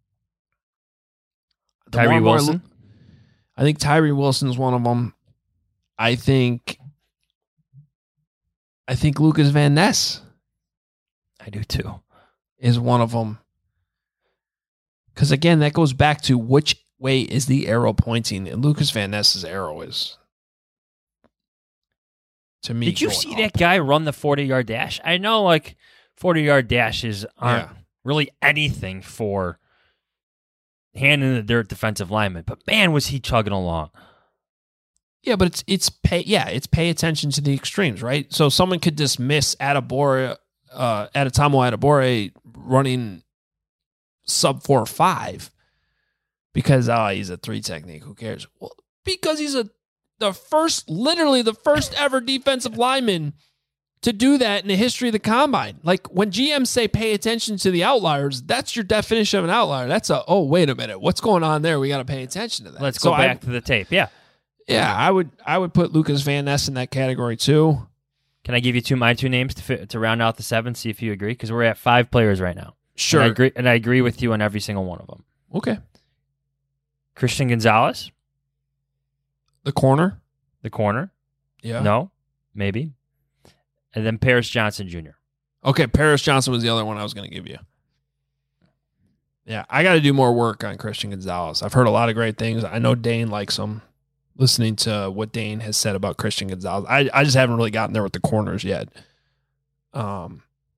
Tyree Wilson. I think Tyree Wilson's one of them. I think Lucas Van Ness. I do too. Is one of them. Because again, that goes back to which way is the arrow pointing, and Lucas Van Ness's arrow is, to me. Did you see that guy run the 40-yard dash? I know, like 40-yard dashes aren't really anything for hand in the dirt defensive lineman, but man, was he chugging along. Yeah, but it's pay attention to the extremes, right? So someone could dismiss Adetomo Adebawore running sub 4.5 because he's a 3 technique. Who cares? Well, because he's the first ever defensive lineman to do that in the history of the combine. Like when GMs say pay attention to the outliers, that's your definition of an outlier. That's wait a minute, what's going on there? We got to pay attention to that. Let's go back to the tape. Yeah. Yeah, I would put Lucas Van Ness in that category too. Can I give you my 2 names to round out the 7? See if you agree, because we're at 5 players right now. Sure, and I agree with you on every single one of them. Okay. Christian Gonzalez, the corner. Yeah. No, maybe. And then Paris Johnson Jr. Okay, Paris Johnson was the other one I was going to give you. Yeah, I got to do more work on Christian Gonzalez. I've heard a lot of great things. I know Dane likes him. Listening to what Dane has said about Christian Gonzalez, I just haven't really gotten there with the corners yet. But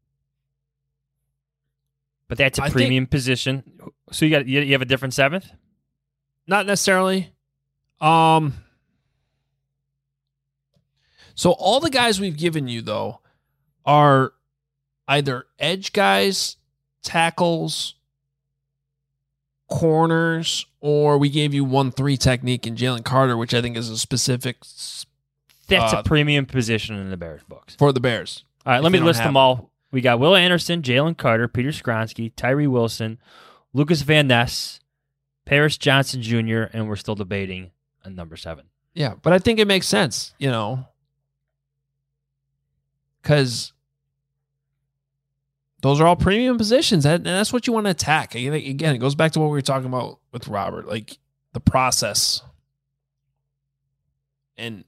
that's a premium position. So you have a different 7th? Not necessarily. So all the guys we've given you though are either edge guys, tackles, corners, or we gave you 1-3 technique in Jalen Carter, which I think is a specific. That's a premium position in the Bears books. For the Bears. All right, let me list them all. We got Will Anderson, Jalen Carter, Peter Skoronski, Tyree Wilson, Lucas Van Ness, Paris Johnson Jr., and we're still debating on number 7. Yeah, but I think it makes sense, because those are all premium positions, and that's what you want to attack. Again, it goes back to what we were talking about with Robert, like the process and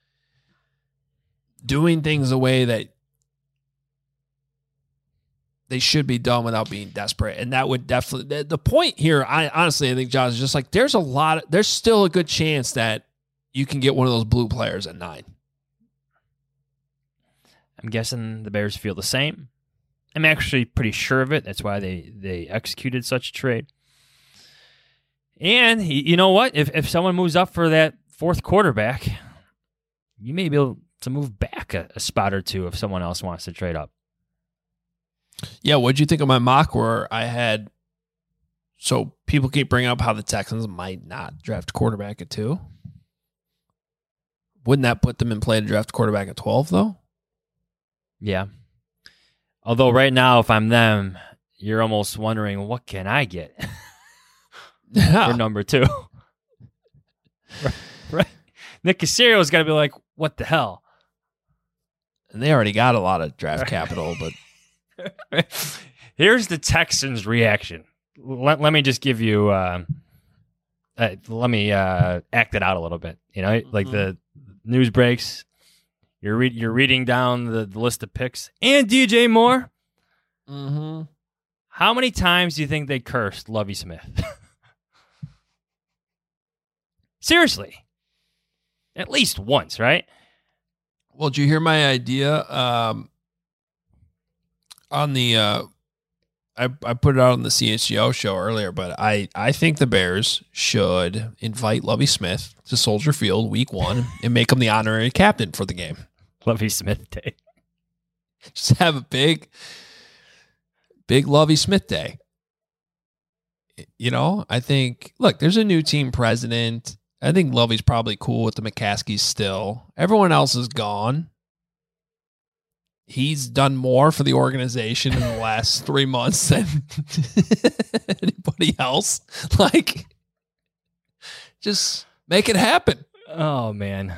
doing things the way that they should be done without being desperate. And that would definitely, the point here, I think, Josh, is just like there's still a good chance that you can get one of those blue players at 9. I'm guessing the Bears feel the same. I'm actually pretty sure of it. That's why they executed such a trade. And you know what? If someone moves up for that 4th quarterback, you may be able to move back a spot or 2 if someone else wants to trade up. Yeah, what'd you think of my mock where I had So people keep bringing up how the Texans might not draft a quarterback at 2. Wouldn't that put them in play to draft a quarterback at 12, though? Yeah. Although right now, if I'm them, you're almost wondering, what can I get for number 2? Right. Nick Caserio's got to be like, what the hell? And they already got a lot of draft capital, but here's the Texans' reaction. Let me just give you. Let me act it out a little bit. You know, like the news breaks. You're reading down the list of picks and DJ Moore. Mm-hmm. How many times do you think they cursed Lovie Smith? Seriously, at least once, right? Well, did you hear my idea on the I put it out on the CHGO show earlier, but I think the Bears should invite Lovie Smith to Soldier Field week 1 and make him the honorary captain for the game. Lovie Smith Day. Just have a big Lovie Smith Day. You know, I think, look, there's a new team president. I think Lovie's probably cool with the McCaskies still. Everyone else is gone. He's done more for the organization in the last 3 months than anybody else. Like, just make it happen. Oh, man.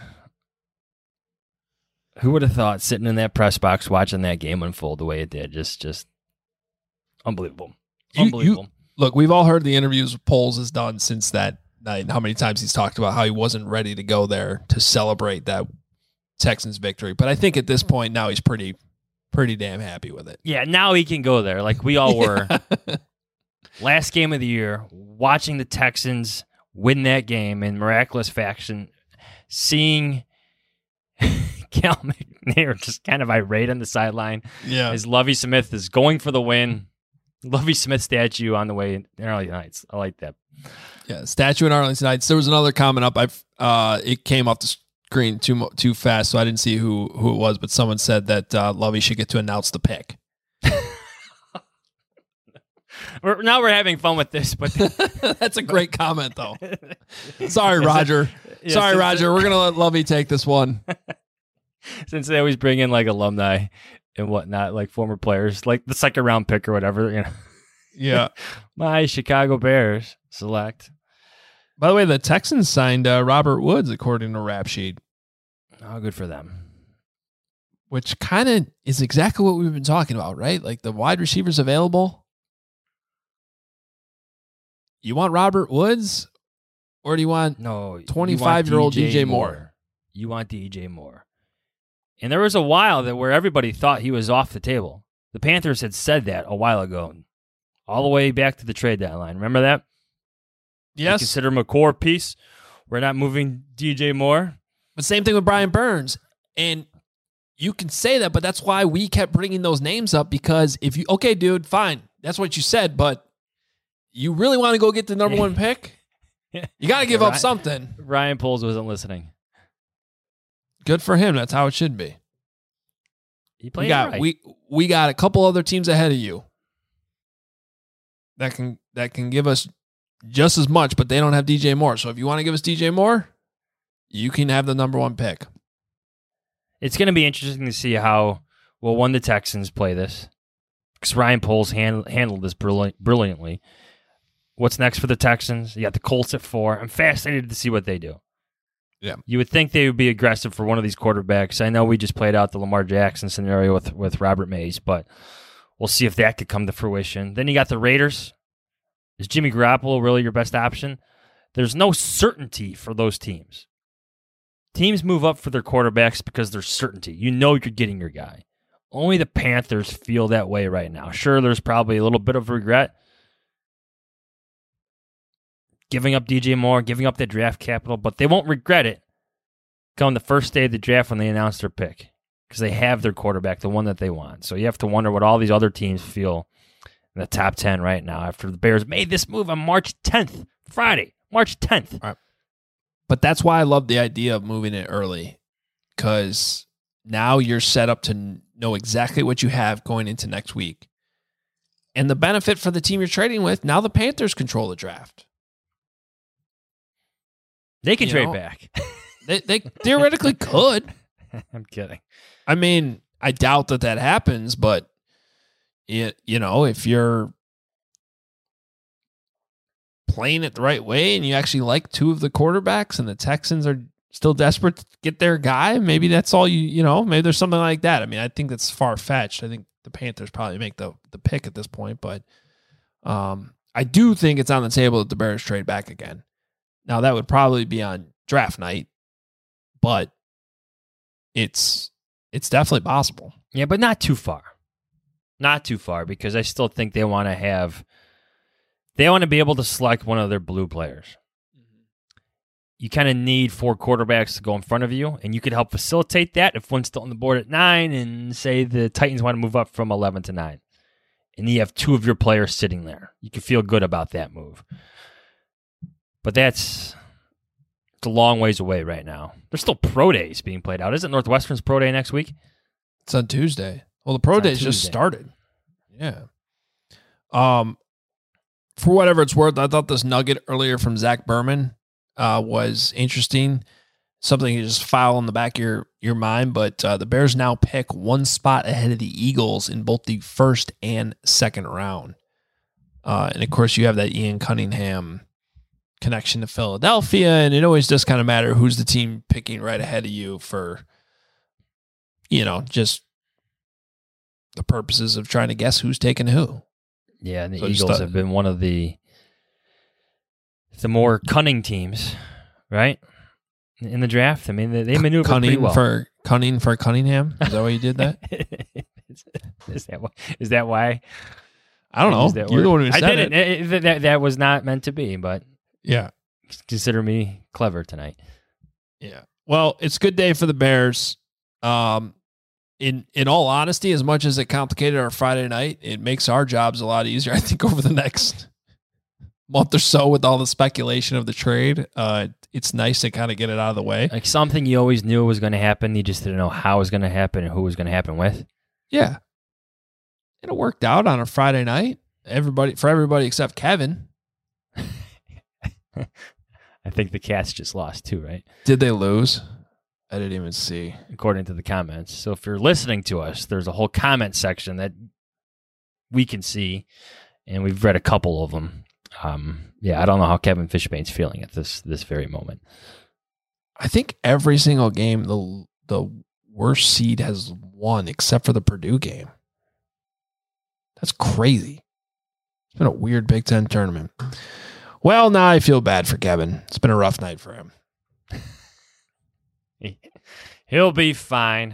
Who would have thought sitting in that press box watching that game unfold the way it did? Just unbelievable. Unbelievable. Look, we've all heard the interviews Poles has done since that night. How many times he's talked about how he wasn't ready to go there to celebrate that Texans victory. But I think at this point now he's pretty damn happy with it. Yeah, now he can go there like we all were. Last game of the year, watching the Texans win that game in miraculous fashion, seeing Cal McNair just kind of irate on the sideline as Lovie Smith is going for the win. Lovie Smith statue on the way in Arlington Heights. I like that. Yeah, statue in Arlington Heights. There was another comment up. It came off the screen too fast, so I didn't see who it was. But someone said that Lovie should get to announce the pick. Now we're having fun with this, but that's a great comment, though. Sorry, Roger. Sorry, Roger. We're gonna let Lovie take this one. Since they always bring in like alumni and whatnot, like former players, like the second round pick or whatever, you know. Yeah. My Chicago Bears select. By the way, the Texans signed Robert Woods, according to Rap Sheet. Oh, good for them. Which kind of is exactly what we've been talking about, right? Like the wide receivers available. You want Robert Woods, or do you want 25-year-old DJ Moore? You want DJ Moore. And there was a while where everybody thought he was off the table. The Panthers had said that a while ago, all the way back to the trade deadline. Remember that? Yes. We consider him a core piece. We're not moving DJ Moore. But same thing with Brian Burns. And you can say that, but that's why we kept bringing those names up, because if you, okay, dude, fine. That's what you said, but you really want to go get the number 1 pick? You got to give up something. Ryan Poles wasn't listening. Good for him. That's how it should be. He played right. We got a couple other teams ahead of you that can give us just as much, but they don't have DJ Moore. So if you want to give us DJ Moore, you can have the number 1 pick. It's going to be interesting to see how the Texans play this, because Ryan Poles handled this brilliantly. What's next for the Texans? You got the Colts at 4. I'm fascinated to see what they do. Yeah, you would think they would be aggressive for one of these quarterbacks. I know we just played out the Lamar Jackson scenario with Robert Mays, but we'll see if that could come to fruition. Then you got the Raiders. Is Jimmy Garoppolo really your best option? There's no certainty for those teams. Teams move up for their quarterbacks because there's certainty. You know you're getting your guy. Only the Panthers feel that way right now. Sure, there's probably a little bit of regret. Giving up DJ Moore, giving up that draft capital, but they won't regret it come the first day of the draft when they announce their pick, because they have their quarterback, the one that they want. So you have to wonder what all these other teams feel in the top 10 right now after the Bears made this move on March 10th, Friday, March 10th. All right. But that's why I love the idea of moving it early, because now you're set up to know exactly what you have going into next week. And the benefit for the team you're trading with, now the Panthers control the draft. They can You trade know? back. They theoretically could. I'm kidding. I mean, I doubt that happens, but if you're playing it the right way and you actually like two of the quarterbacks and the Texans are still desperate to get their guy, maybe that's all maybe there's something like that. I mean, I think that's far-fetched. I think the Panthers probably make the pick at this point, but I do think it's on the table that the Bears trade back again. Now, that would probably be on draft night, but it's definitely possible. Yeah, but not too far. Not too far, because I still think they want to be able to select one of their blue players. You kind of need 4 quarterbacks to go in front of you, and you could help facilitate that if one's still on the board at 9, and say the Titans want to move up from 11 to 9. And you have 2 of your players sitting there. You can feel good about that move. But it's a long ways away right now. There's still pro days being played out. Isn't Northwestern's pro day next week? It's on Tuesday. Well, the pro days just started. Yeah. For whatever it's worth, I thought this nugget earlier from Zach Berman was interesting. Something you just file in the back of your mind. But the Bears now pick 1 spot ahead of the Eagles in both the first and second round. And of course, you have that Ian Cunningham connection to Philadelphia, and it always does kind of matter who's the team picking right ahead of you for, just the purposes of trying to guess who's taking who. Yeah, and the Eagles have been one of the more cunning teams, right? In the draft. I mean, they maneuver pretty well. Cunning for Cunningham? Is that why you did that? Is that why? I don't know. You're the one who said I didn't. That was not meant to be, but yeah. Consider me clever tonight. Yeah. Well, it's a good day for the Bears. In all honesty, as much as it complicated our Friday night, it makes our jobs a lot easier, I think, over the next month or so with all the speculation of the trade. It's nice to kind of get it out of the way. Like something you always knew was going to happen. You just didn't know how it was going to happen and who it was going to happen with. Yeah. And it worked out on a Friday night. For everybody except Kevin. I think the Cats just lost too, right? Did they lose? I didn't even see. According to the comments. So if you're listening to us, there's a whole comment section that we can see, and we've read a couple of them. I don't know how Kevin Fishbane's feeling at this very moment. I think every single game the worst seed has won except for the Purdue game. That's crazy. It's been a weird Big Ten tournament. Well, now I feel bad for Kevin. It's been a rough night for him. He'll be fine.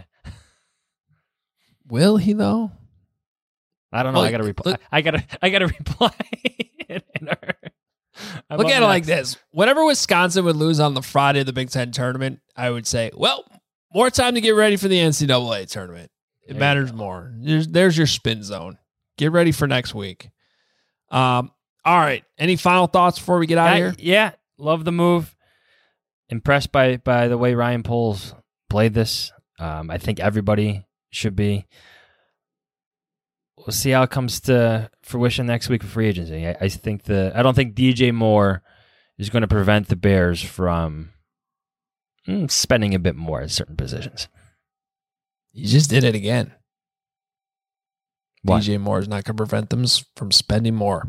Will he though? I don't know. Well, I gotta reply. I gotta reply. Look at it like this. Whenever Wisconsin would lose on the Friday of the Big Ten tournament, I would say, well, more time to get ready for the NCAA tournament. It matters more. There's your spin zone. Get ready for next week. All right. Any final thoughts before we get out of here? Yeah. Love the move. Impressed by the way Ryan Poles played this. I think everybody should be. We'll see how it comes to fruition next week for free agency. I don't think DJ Moore is going to prevent the Bears from spending a bit more at certain positions. You just did it again. What? DJ Moore is not going to prevent them from spending more.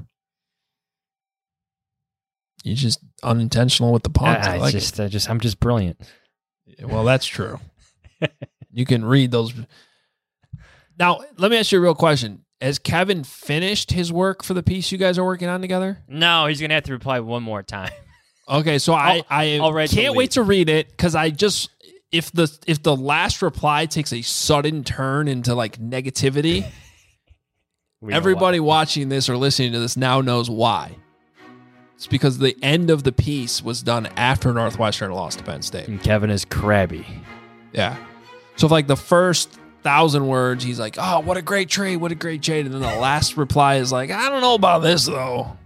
You're just unintentional with the puns. I'm just brilliant. Well, that's true. You can read those. Now, let me ask you a real question. Has Kevin finished his work for the piece you guys are working on together? No, he's going to have to reply one more time. Okay, so I can't wait to read it because if the last reply takes a sudden turn into like negativity, everybody watching this or listening to this now knows why. It's because the end of the piece was done after Northwestern lost to Penn State. And Kevin is crabby. Yeah. So if like the first 1,000 words, he's like, oh, what a great trade, what a great trade. And then the last reply is like, I don't know about this, though.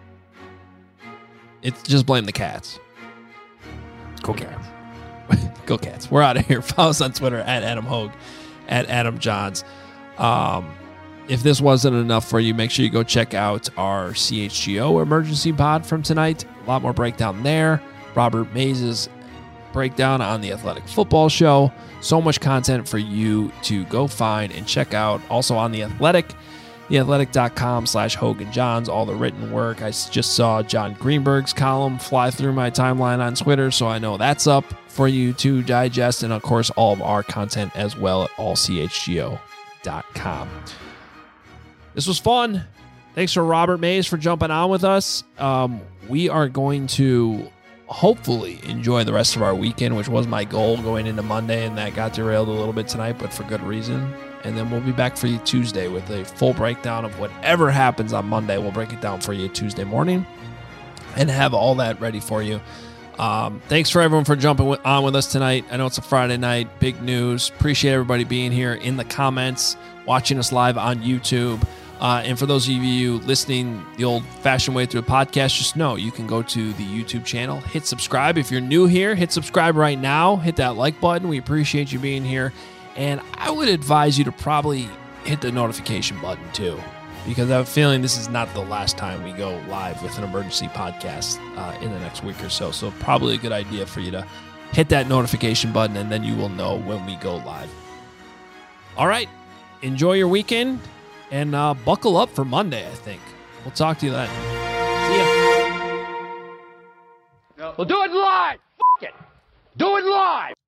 It's just blame the Cats. Go Cats. Go Cats. We're out of here. Follow us on Twitter at Adam Hogue, at Adam Johns. if this wasn't enough for you, make sure you go check out our CHGO emergency pod from tonight. A lot more breakdown there. Robert Mays' breakdown on the Athletic Football Show. So much content for you to go find and check out. Also on The Athletic, theathletic.com/Hogan Johns, all the written work. I just saw John Greenberg's column fly through my timeline on Twitter, so I know that's up for you to digest. And of course, all of our content as well at allchgo.com. This was fun. Thanks for Robert Mays for jumping on with us. We are going to hopefully enjoy the rest of our weekend, which was my goal going into Monday, and that got derailed a little bit tonight, but for good reason. And then we'll be back for you Tuesday with a full breakdown of whatever happens on Monday. We'll break it down for you Tuesday morning and have all that ready for you. Thanks for everyone for jumping on with us tonight. I know it's a Friday night, big news. Appreciate everybody being here in the comments, watching us live on YouTube. And for those of you listening the old-fashioned way through a podcast, just know you can go to the YouTube channel, hit subscribe. If you're new here, hit subscribe right now. Hit that like button. We appreciate you being here. And I would advise you to probably hit the notification button too, because I have a feeling this is not the last time we go live with an emergency podcast in the next week or so. So probably a good idea for you to hit that notification button, and then you will know when we go live. All right. Enjoy your weekend. And buckle up for Monday, I think. We'll talk to you then. See ya. We'll do it live. F*** it. Do it live.